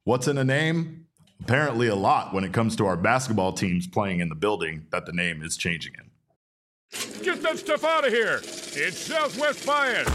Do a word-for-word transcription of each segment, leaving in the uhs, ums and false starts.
What's in a name? Apparently a lot when it comes to our basketball teams playing in the building that the name is changing in. Get that stuff out of here. It's Southwest Bias.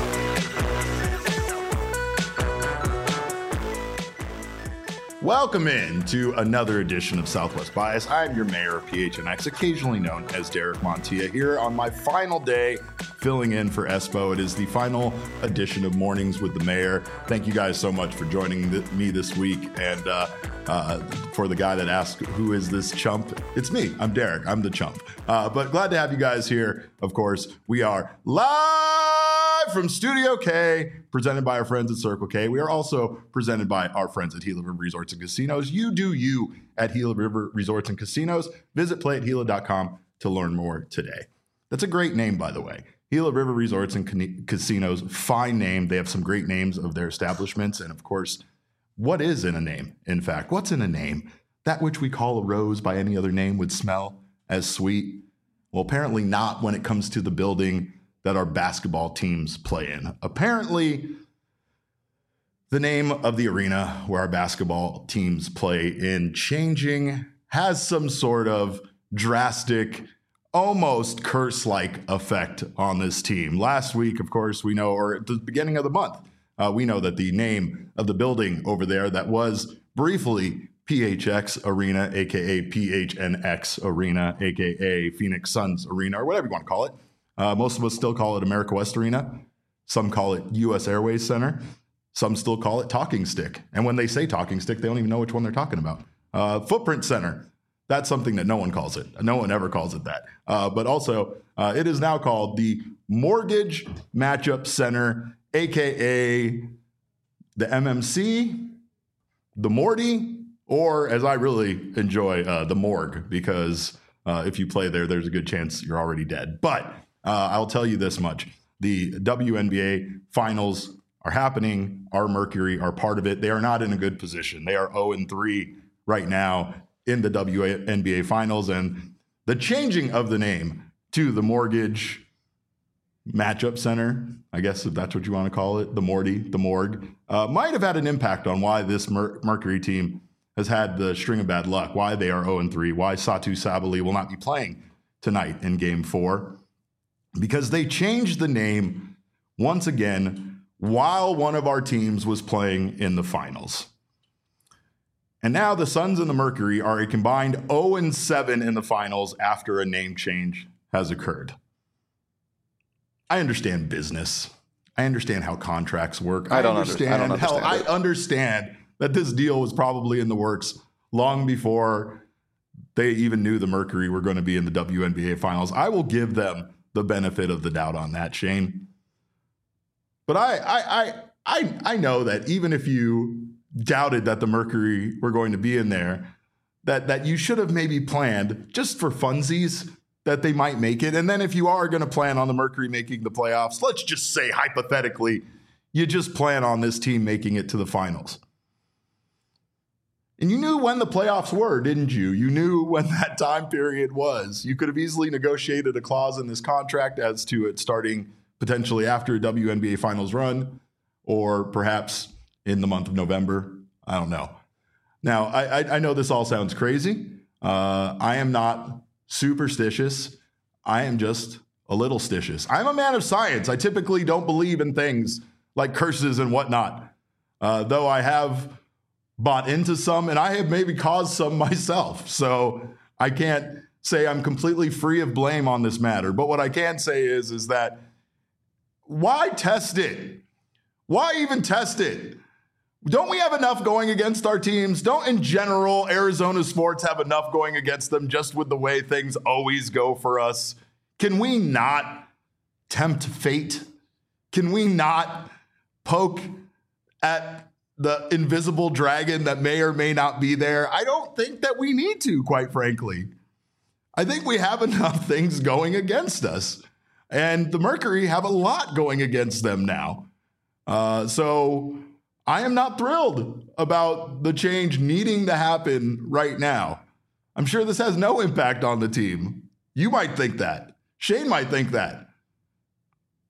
Welcome in to another edition of Southwest Bias. I'm your mayor of P H N X, occasionally known as Derek Montilla, here on my final day filling in for Espo. It is the final edition of Mornings with the Mayor. Thank you guys so much for joining th- me this week. And uh, uh, for the guy that asked, who is this chump? It's me. I'm Derek. I'm the chump. Uh, but glad to have you guys here. Of course, we are live from Studio K, presented by our friends at Circle K. We are also presented by our friends at Gila River Resorts and Casinos. You do you at Gila River Resorts and Casinos. Visit play at gila dot com to learn more today. That's a great name, by the way. Gila River Resorts and Can- Casinos, fine name. They have some great names of their establishments. And of course, what is in a name? In fact, what's in a name? That which we call a rose by any other name would smell as sweet. Well, apparently not when it comes to the building that our basketball teams play in. Apparently, the name of the arena where our basketball teams play in changing has some sort of drastic, almost curse-like effect on this team. Last week, of course, we know, or at the beginning of the month, uh, we know that the name of the building over there that was briefly P H X Arena, a k a. P H N X Arena, a k a. Phoenix Suns Arena, or whatever you want to call it. Uh, most of us still call it America West Arena. Some call it U S Airways Center. Some still call it Talking Stick. And when they say Talking Stick, they don't even know which one they're talking about. Uh, Footprint Center. That's something that no one calls it. No one ever calls it that. Uh, but also, uh, it is now called the Mortgage Matchup Center, a k a the M M C, the Morty, or as I really enjoy, uh, the Morgue, because uh, if you play there, there's a good chance you're already dead. But uh, I'll tell you this much. The W N B A Finals are happening. Our Mercury are part of it. They are not in a good position. They are oh and three right now in the W N B A Finals. And the changing of the name to the Mortgage Matchup Center, I guess if that's what you want to call it, the Morty, the Morgue, uh, might have had an impact on why this Mer- Mercury team has had the string of bad luck, why they are oh and three, why Satu Sabali will not be playing tonight in Game four. Because they changed the name once again while one of our teams was playing in the finals. And now the Suns and the Mercury are a combined oh and seven in the finals after a name change has occurred. I understand business. I understand how contracts work. I don't I understand. understand. I don't understand Hell, it. I understand that this deal was probably in the works long before they even knew the Mercury were going to be in the W N B A Finals. I will give them the benefit of the doubt on that, Shane. But I, I, I, I, I know that even if you doubted that the Mercury were going to be in there, that that you should have maybe planned just for funsies that they might make it. And then if you are going to plan on the Mercury making the playoffs, let's just say hypothetically, you just plan on this team making it to the finals. And you knew when the playoffs were, didn't you? You knew when that time period was. You could have easily negotiated a clause in this contract as to it starting potentially after a W N B A Finals run, or perhaps in the month of November. I don't know. Now, I, I, I know this all sounds crazy. Uh, I am not superstitious. I am just a little stitious. I'm a man of science. I typically don't believe in things like curses and whatnot, uh, though I have bought into some, and I have maybe caused some myself. So I can't say I'm completely free of blame on this matter. But what I can say is, is that why test it? Why even test it? Don't we have enough going against our teams? Don't, in general, Arizona sports have enough going against them just with the way things always go for us? Can we not tempt fate? Can we not poke at the invisible dragon that may or may not be there? I don't think that we need to, quite frankly. I think we have enough things going against us. And the Mercury have a lot going against them now. Uh, so I am not thrilled about the change needing to happen right now. I'm sure this has no impact on the team. You might think that. Shane might think that.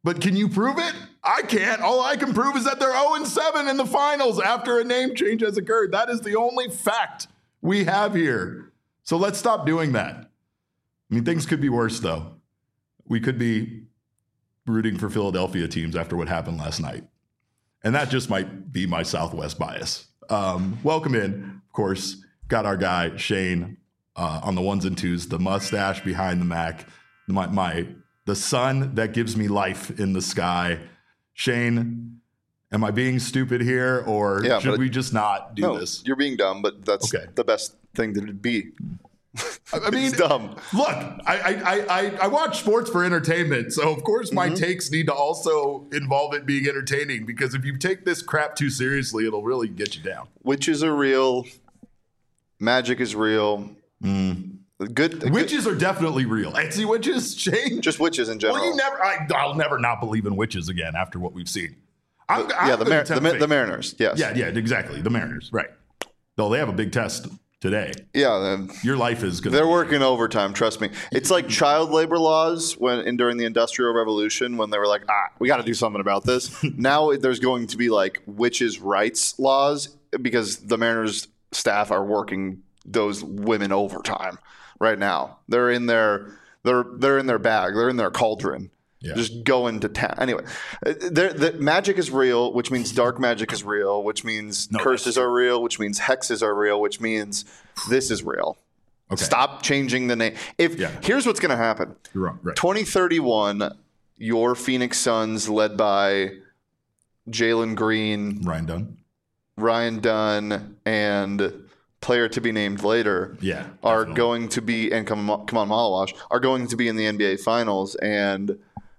But can you prove it? I can't. All I can prove is that they're oh and seven in the finals after a name change has occurred. That is the only fact we have here. So let's stop doing that. I mean, things could be worse, though. We could be rooting for Philadelphia teams after what happened last night. And that just might be my Southwest bias. Um, welcome in, of course. Got our guy, Shane, uh, on the ones and twos, the mustache behind the Mac, my, my the sun that gives me life in the sky. Shane, am I being stupid here, or yeah, should we just not do no, this? You're being dumb, but that's okay. The best thing that it'd be. I mean, it's dumb. Look, I, I I I watch sports for entertainment, so of course my mm-hmm. takes need to also involve it being entertaining. Because if you take this crap too seriously, it'll really get you down. Witches are real. Magic is real. Mm. Good witches good. are definitely real. Etsy witches, Shane. Just witches in general. Well, you never. I, I'll never not believe in witches again after what we've seen. I'm, yeah, I'm the, Mar- the, Ma- the Mariners. Yes. Yeah, yeah, exactly. The Mariners, right? Though they have a big test today. Yeah, your life is good. They're working overtime. Trust me. It's like child labor laws when in, during the Industrial Revolution when they were like, ah, we got to do something about this. Now there's going to be like witches' rights laws because the Mariners staff are working those women overtime right now. They're in their they're they're in their bag. They're in their cauldron. Yeah. Just going to town. Anyway, the magic is real, which means dark magic is real, which means no, curses are real, which means hexes are real, which means this is real. Okay. Stop changing the name. If yeah. Here's what's going to happen. You're wrong. Right. twenty thirty-one, your Phoenix Suns, led by Jalen Green, Ryan Dunn, Ryan Dunn, and player to be named later, yeah, are definitely. going to be and come come on Malawash are going to be in the N B A Finals, and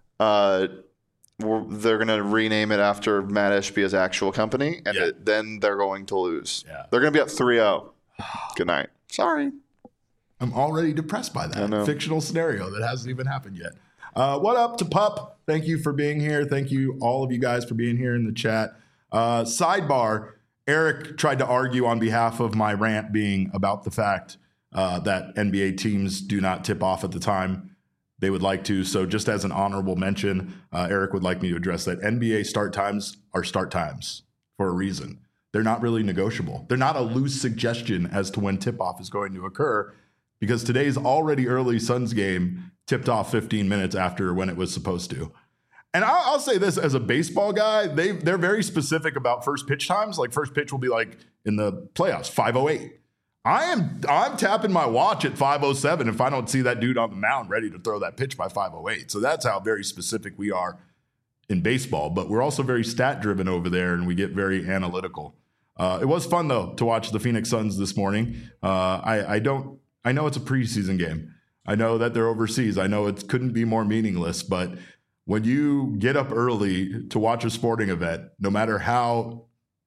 uh, we're, they're going to rename it after Matt Ishbia's actual company, and yeah. it, then they're going to lose. Yeah. They're going to be up three oh. Good night. Sorry. I'm already depressed by that fictional scenario that hasn't even happened yet. Uh, what up to Pup? Thank you for being here. Thank you, all of you guys, for being here in the chat. Uh, sidebar. Eric tried to argue on behalf of my rant being about the fact uh, that N B A teams do not tip off at the time they would like to. So just as an honorable mention, uh, Eric would like me to address that. N B A start times are start times for a reason. They're not really negotiable. They're not a loose suggestion as to when tip-off is going to occur because today's already early Suns game tipped off fifteen minutes after when it was supposed to. And I'll, I'll say this as a baseball guy, they they're very specific about first pitch times. Like first pitch will be like in the playoffs, five oh eight. I am I'm tapping my watch at five oh seven if I don't see that dude on the mound ready to throw that pitch by five oh eight. So that's how very specific we are in baseball. But we're also very stat driven over there, and we get very analytical. Uh, it was fun though to watch the Phoenix Suns this morning. Uh, I I don't I know it's a preseason game. I know that they're overseas. I know it couldn't be more meaningless, but when you get up early to watch a sporting event, no matter how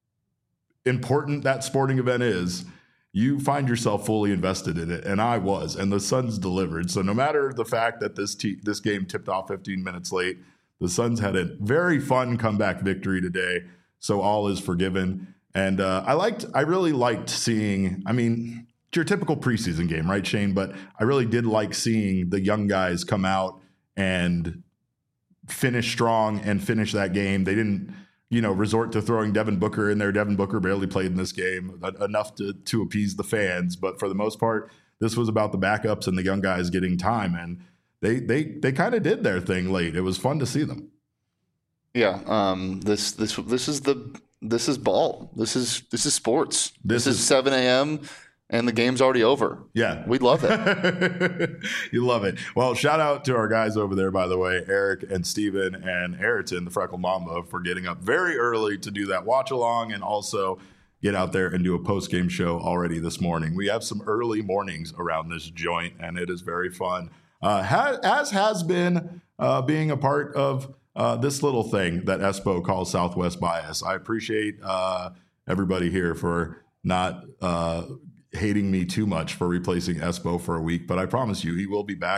important that sporting event is, you find yourself fully invested in it. And I was, and the Suns delivered. So no matter the fact that this te- this game tipped off fifteen minutes late, the Suns had a very fun comeback victory today. So all is forgiven. And uh, I liked, I really liked seeing, I mean, it's your typical preseason game, right, Shane? But I really did like seeing the young guys come out and finish strong and finish that game. They didn't, you know, resort to throwing Devin Booker in there. Devin Booker barely played in this game, enough to to appease the fans. But for the most part, this was about the backups and the young guys getting time. And they they they kind of did their thing late. It was fun to see them. Yeah. Um, this this this is the this is ball. This is this is sports. This, this is, is seven a.m. and the game's already over. Yeah. We love it. You love it. Well, shout out to our guys over there, by the way, Eric and Steven and Ayrton, the Freckle Mamba, for getting up very early to do that watch along and also get out there and do a post-game show already this morning. We have some early mornings around this joint, and it is very fun. Uh, has, as has been uh, being a part of uh, this little thing that Espo calls Southwest Bias. I appreciate uh, everybody here for not uh, hating me too much for replacing Espo for a week, but I promise you he will be back.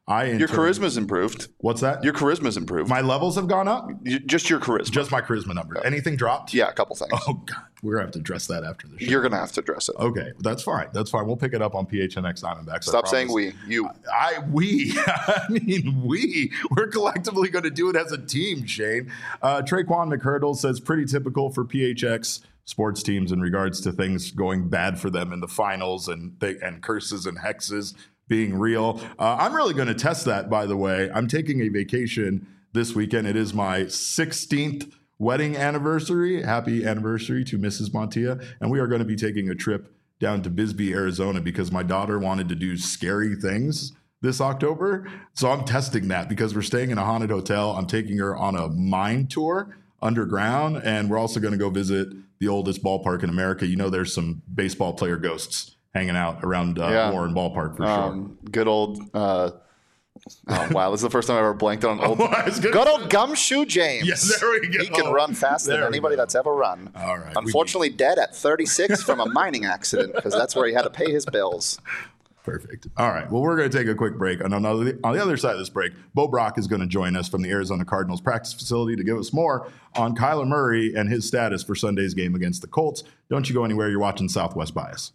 I in Your turn- charisma's improved. What's that? Your charisma's improved. My levels have gone up? You- just your charisma. Just my charisma number. Anything dropped? yeah, a couple things. Oh, God. We're going to have to address that after the show. You're going to have to address it. Okay, that's fine. That's fine. We'll pick it up on P H N X Diamondbacks. Stop saying we. You. I we. I mean we. We're collectively going to do it as a team, Shane. Uh, Traquan McHurdle says pretty typical for P H X sports teams in regards to things going bad for them in the finals and th- and curses and hexes being real. Uh, I'm really going to test that, by the way. I'm taking a vacation this weekend. It is my sixteenth wedding anniversary. Happy anniversary to Missus Montilla. And we are going to be taking a trip down to Bisbee, Arizona, because my daughter wanted to do scary things this October. So I'm testing that because we're staying in a haunted hotel. I'm taking her on a mine tour underground, and we're also going to go visit the oldest ballpark in America. You know, there's some baseball player ghosts hanging out around uh, Yeah. Warren Ballpark for Um, good old. Uh, oh, wow. This is the first time I ever blanked on old. sure. It's good. Good old Gumshoe James. Yeah, there we go. He can run faster There than we anybody go. that's ever run. All right, we Unfortunately, dead at thirty-six from a mining accident because that's where he had to pay his bills. Perfect. All right. Well, we're going to take a quick break. And on the, on the other side of this break, Bo Brock is going to join us from the Arizona Cardinals practice facility to give us more on Kyler Murray and his status for Sunday's game against the Colts. Don't you go anywhere. You're watching Southwest Bias.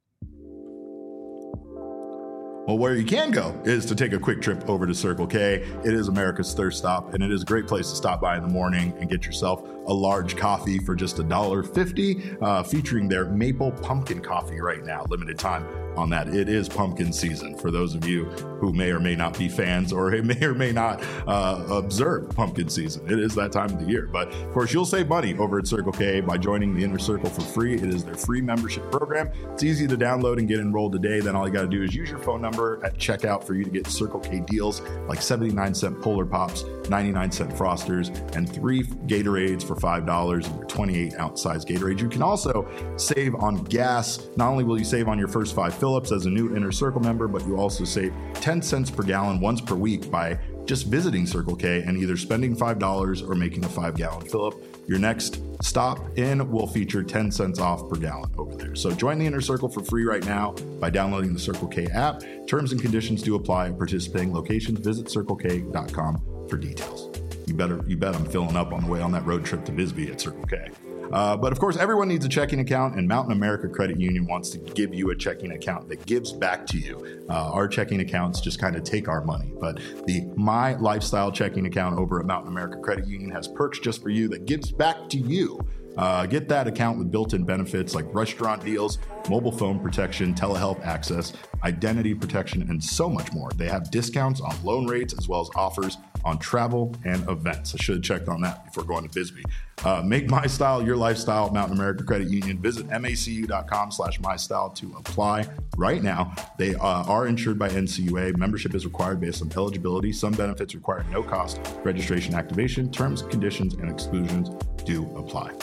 Well, where you can go is to take a quick trip over to Circle K. It is America's thirst stop, and it is a great place to stop by in the morning and get yourself a large coffee for just one dollar fifty, uh, featuring their maple pumpkin coffee right now. Limited time on that. It is pumpkin season for those of you who may or may not be fans or may or may not uh, observe pumpkin season. It is that time of the year. But of course, you'll save money over at Circle K by joining the Inner Circle for free. It is their free membership program. It's easy to download and get enrolled today. Then all you got to do is use your phone number at checkout for you to get Circle K deals like seventy-nine cent Polar Pops, ninety-nine cent Frosters, and three Gatorades for five dollars and twenty-eight ounce size Gatorade. You can also save on gas. Not only will you save on your first five fill-ups as a new Inner Circle member, but you also save ten cents per gallon once per week by just visiting Circle K and either spending five dollars or making a five gallon fill-up. Your next stop in will feature ten cents off per gallon over there. So join the Inner Circle for free right now by downloading the Circle K app. Terms and conditions do apply at participating locations. Visit circle k dot com for details. You better, you bet I'm filling up on the way on that road trip to Bisbee at Circle K. Uh, but of course, everyone needs a checking account, and Mountain America Credit Union wants to give you a checking account that gives back to you. Uh, our checking accounts just kind of take our money, but the My Lifestyle checking account over at Mountain America Credit Union has perks just for you that gives back to you. Uh, get that account with built-in benefits like restaurant deals, mobile phone protection, telehealth access, identity protection, and so much more. They have discounts on loan rates as well as offers on travel and events. I should have checked on that before going to Bisbee. Uh, make My Style your lifestyle at Mountain America Credit Union. Visit macu dot com slash my style to apply right now. They uh, are insured by N C U A. Membership is required based on eligibility. Some benefits require no cost registration activation. Terms, conditions, and exclusions do apply.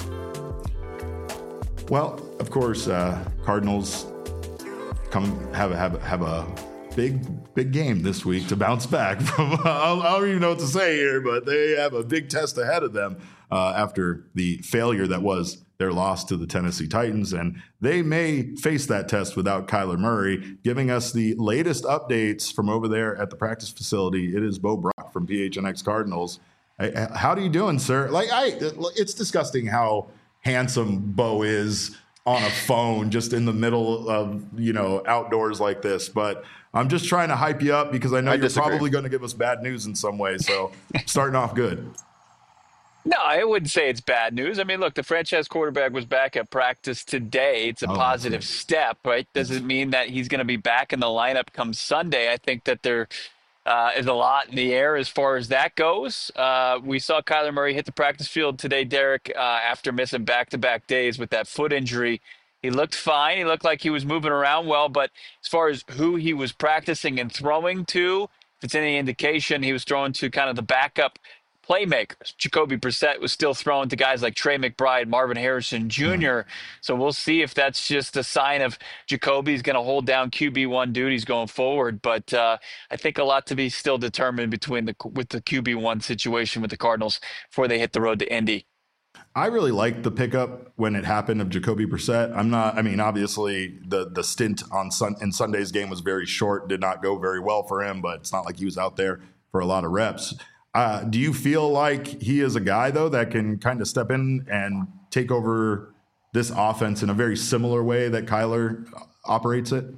Well, of course, uh, Cardinals come have a, have a, have a big big game this week to bounce back from. I don't even know what to say here, but they have a big test ahead of them uh, after the failure that was their loss to the Tennessee Titans, and they may face that test without Kyler Murray. Giving us the latest updates from over there at the practice facility, it is Bo Brock from P H N X Cardinals. Hey, how are you doing, sir? Like, I, it's disgusting how handsome Bo is on a phone just in the middle of, you know, outdoors like this. But I'm just trying to hype you up because I know I you're disagree. probably going to give us bad news in some way. So starting off good. No, I wouldn't say it's bad news. I mean, look, the franchise quarterback was back at practice today. It's a Oh, positive okay. step, right? Does it mean that he's going to be back in the lineup come Sunday? I think that there uh, is a lot in the air as far as that goes. Uh, we saw Kyler Murray hit the practice field today, Derek, uh, after missing back-to-back days with that foot injury. He looked fine. He looked like he was moving around well, but as far as who he was practicing and throwing to, if it's any indication, he was throwing to kind of the backup playmakers. Jacoby Brissett was still throwing to guys like Trey McBride, Marvin Harrison Junior So we'll see if that's just a sign of Jacoby's going to hold down Q B one duties going forward. But uh, I think a lot to be still determined between the with the Q B one situation with the Cardinals before they hit the road to Indy. I really liked the pickup when it happened of Jacoby Brissett. I'm not. I mean, obviously the the stint on sun, in Sunday's game was very short. Did not go very well for him, but it's not like he was out there for a lot of reps. Uh, do you feel like he is a guy though that can kind of step in and take over this offense in a very similar way that Kyler operates it?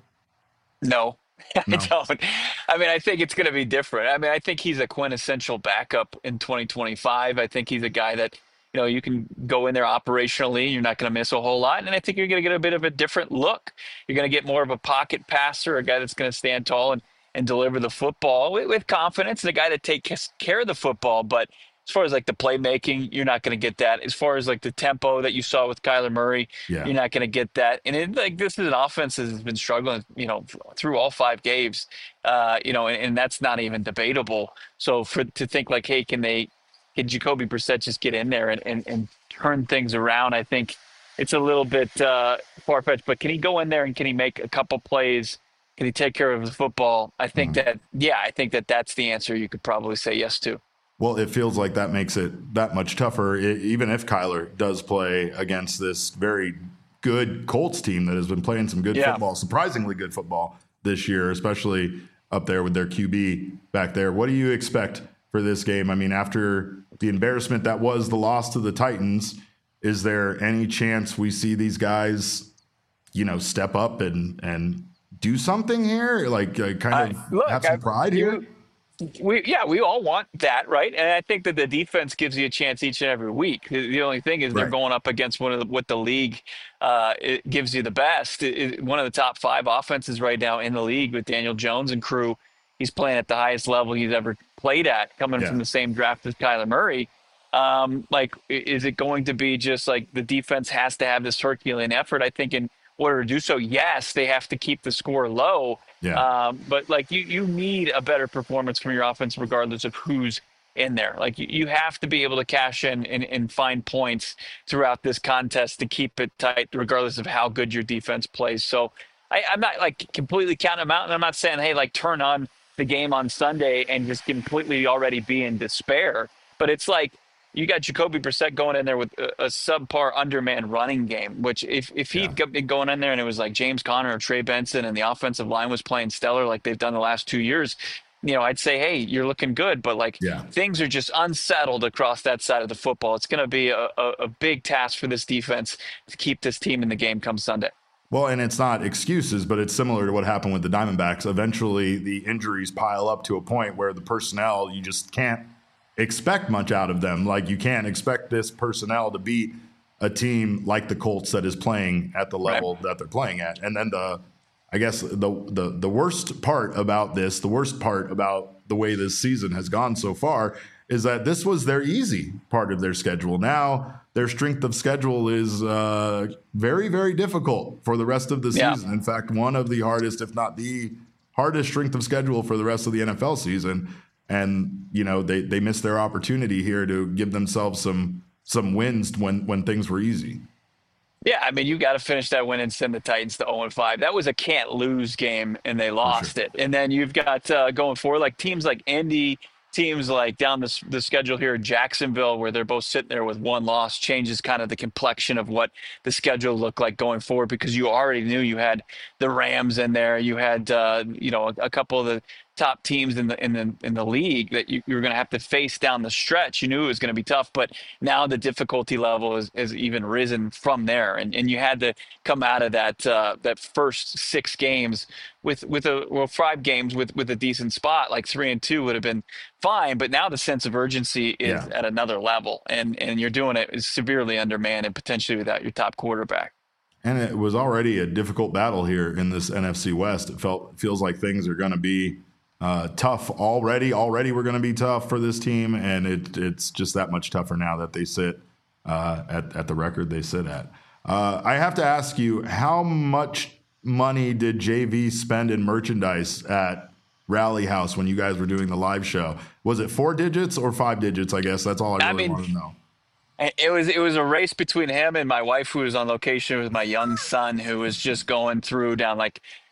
No. No. I don't. I mean, I think it's going to be different. I mean, I think he's a quintessential backup in twenty twenty-five. I think he's a guy that, you know, you can go in there operationally. You're not going to miss a whole lot. And I think you're going to get a bit of a different look. You're going to get more of a pocket passer, a guy that's going to stand tall and, and deliver the football with, with confidence, and a guy that takes care of the football. But as far as like the playmaking, you're not going to get that. As far as like the tempo that you saw with Kyler Murray, Yeah. you're not going to get that. And it, like this is an offense that has been struggling, you know, through all five games, uh, you know, and, and that's not even debatable. So for to think like, hey, can they, can Jacoby Brissett just get in there and, and, and turn things around? I think it's a little bit uh, far fetched. But can he go in there and can he make a couple plays? Can he take care of the football? I think Mm-hmm. that, yeah, I think that that's the answer you could probably say yes to. Well, it feels like that makes it that much tougher, I even if Kyler does play against this very good Colts team that has been playing some good Yeah. football, surprisingly good football this year, especially up there with their Q B back there. What do you expect for this game? I mean, after the embarrassment that was the loss to the Titans, is there any chance we see these guys, you know, step up and and do something here? Like uh, kind of Uh, look, have some I- pride you- here? We yeah, we all want that, right? And I think that the defense gives you a chance each and every week. The, the only thing is they're Right. going up against one of the, what the league uh, it gives you the best. It, it- one of the top five offenses right now in the league with Daniel Jones and crew. He's playing at the highest level he's ever played at, coming Yeah. from the same draft as Kyler Murray. Um, like, i- is it going to be just like the defense has to have this Herculean effort? I think in order to do so, yes, they have to keep the score low. Yeah. Um, but like you, you need a better performance from your offense, regardless of who's in there. Like you, you have to be able to cash in and, and find points throughout this contest to keep it tight, regardless of how good your defense plays. So I, I'm not like completely counting them out, and I'm not saying, hey, like turn on the game on Sunday and just completely already be in despair. But it's like you got Jacoby Brissett going in there with a, a subpar underman running game, which if, if he'd Yeah. been going in there and it was like James Conner or Trey Benson and the offensive line was playing stellar like they've done the last two years, you know, I'd say, hey, you're looking good. But like Yeah. things are just unsettled across that side of the football. It's going to be a, a, a big task for this defense to keep this team in the game come Sunday. Well, and it's not excuses, but it's similar to what happened with the Diamondbacks. Eventually, the injuries pile up to a point where the personnel, you just can't expect much out of them. Like, you can't expect this personnel to beat a team like the Colts that is playing at the level that they're playing at. And then the, I guess the, the the worst part about this, the worst part about the way this season has gone so far is that this was their easy part of their schedule. Now their strength of schedule is uh, very, very difficult for the rest of the Yeah. season. In fact, one of the hardest, if not the hardest strength of schedule for the rest of the N F L season. And, you know, they, they missed their opportunity here to give themselves some some wins when, when things were easy. Yeah, I mean, you got to finish that win and send the Titans to oh and five. That was a can't lose game, and they lost it. And then you've got uh, going forward, like teams like Indy, teams like down the, the schedule here, Jacksonville, where they're both sitting there with one loss, changes kind of the complexion of what the schedule looked like going forward, because you already knew you had the Rams in there, you had uh, you know a, a couple of the top teams in the in the in the league that you, you were going to have to face down the stretch. You knew it was going to be tough, but now the difficulty level is, is even risen from there, and and you had to come out of that uh, that first six games with with a well five games with with a decent spot. Like three and two would have been fine, but now the sense of urgency is Yeah. at another level, and and you're doing it severely undermanned and potentially without your top quarterback. And it was already a difficult battle here in this N F C West. It felt feels like things are going to be uh, tough already. Already we're going to be tough for this team, and it, it's just that much tougher now that they sit uh, at, at the record they sit at. Uh, I have to ask you, how much money did J V spend in merchandise at Rally House when you guys were doing the live show? Was it four digits or five digits? I guess that's all I I really mean, want to know. And It was it was a race between him and my wife, who was on location with my young son, who was just going through down like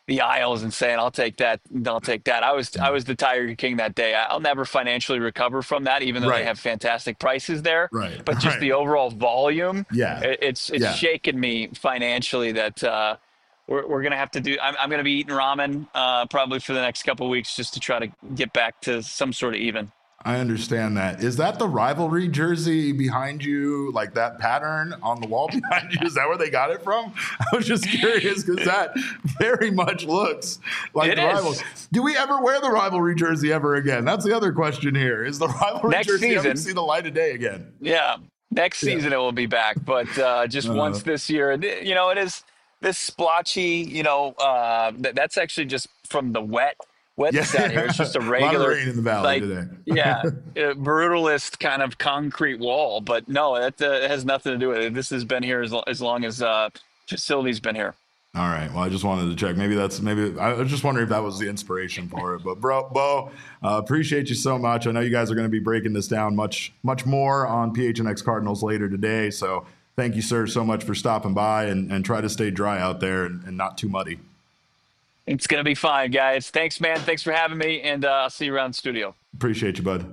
the aisles and saying, "I'll take that, I'll take that." I was I was the Tiger King that day. I'll never financially recover from that, even though Right. they have fantastic prices there. Right. But just Right. the overall volume, Yeah. it, it's it's Yeah. shaken me financially that uh, we're we're gonna have to do. I'm I'm gonna be eating ramen uh, probably for the next couple of weeks just to try to get back to some sort of even. I understand that. Is that the rivalry jersey behind you, like that pattern on the wall behind you? Is that where they got it from? I was just curious because that very much looks like It the is. rivals. Do we ever wear the rivalry jersey ever again? That's the other question here. Is the rivalry Next jersey ever season. see the light of day again? Yeah, next Yeah. season it will be back, but uh, just Uh, once this year. Th- You know, it is this splotchy. You know, uh, th- that's actually just from the wet wetness out here. It's just a a lot of regular, rain in the valley like, today. yeah, uh, brutalist kind of concrete wall. But no, that uh, has nothing to do with it. This has been here as, lo- as long as uh, facility's been here. All right. Well, I just wanted to check. Maybe that's maybe I was just wondering if that was the inspiration for it. But bro, Bo, uh, appreciate you so much. I know you guys are going to be breaking this down much, much more on P H N X Cardinals later today. So thank you, sir, so much for stopping by and, and try to stay dry out there and, and not too muddy. It's gonna be fine, guys. Thanks, man. Thanks for having me, and uh, I'll see you around the studio. Appreciate you, bud.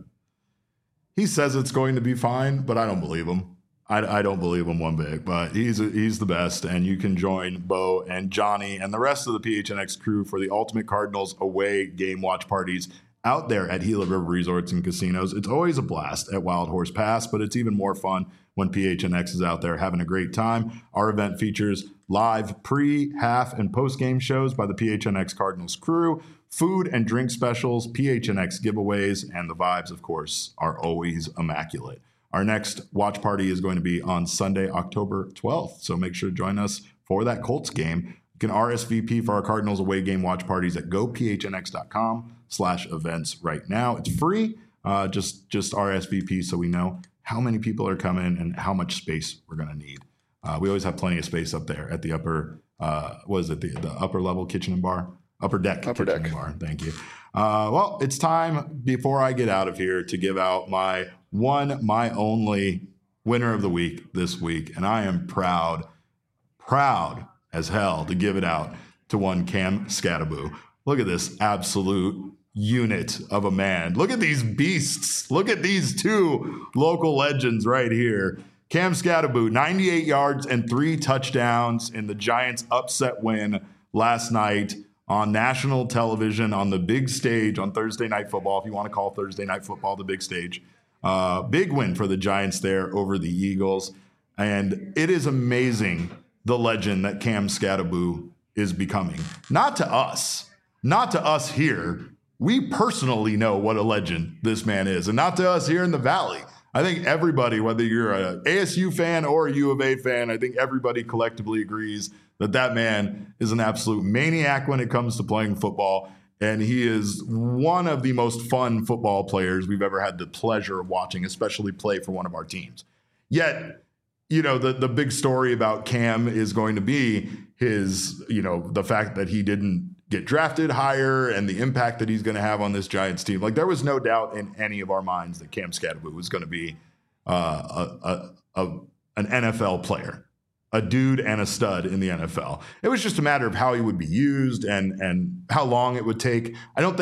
He says it's going to be fine, but I don't believe him. I, I don't believe him one bit, but he's he's the best, and you can join Bo and Johnny and the rest of the P H N X crew for the Ultimate Cardinals away game watch parties out there at Gila River Resorts and Casinos. It's always a blast at Wild Horse Pass, but it's even more fun when P H N X is out there having a great time. Our event features live pre, half, and post-game shows by the P H N X Cardinals crew, food and drink specials, P H N X giveaways, and the vibes, of course, are always immaculate. Our next watch party is going to be on Sunday, October twelfth, so make sure to join us for that Colts game. You can R S V P for our Cardinals away game watch parties at go p h n x dot com slash events right now. It's free. Uh, just just R S V P so we know how many people are coming and how much space we're going to need. Uh, we always have plenty of space up there at the upper, uh, what is it, the, the upper level kitchen and bar? Upper deck Upper kitchen deck. and bar. Thank you. Uh, well, it's time before I get out of here to give out my one, my only winner of the week this week. And I am proud, proud as hell to give it out to one Cam Scattaboo. Look at this absolute unit of a man. Look at these beasts. Look at these two local legends right here. Cam Scattaboo, ninety-eight yards and three touchdowns in the Giants' upset win last night on national television on the big stage on Thursday Night Football, if you want to call Thursday Night Football the big stage. Uh, big win for the Giants there over the Eagles. And it is amazing the legend that Cam Scattaboo is becoming. Not to us, not to us here. We personally know what a legend this man is, and not to us here in the Valley. I think everybody, whether you're a A S U fan or a U of A fan, I think everybody collectively agrees that that man is an absolute maniac when it comes to playing football. And he is one of the most fun football players we've ever had the pleasure of watching, especially play for one of our teams. Yet, you know, the, the big story about Cam is going to be his, you know, the fact that he didn't get drafted higher and the impact that he's going to have on this Giants team. Like, there was no doubt in any of our minds that Cam Scattaboo was going to be uh, a, a, a an N F L player, a dude and a stud in the N F L. It was just a matter of how he would be used and and how long it would take. I don't think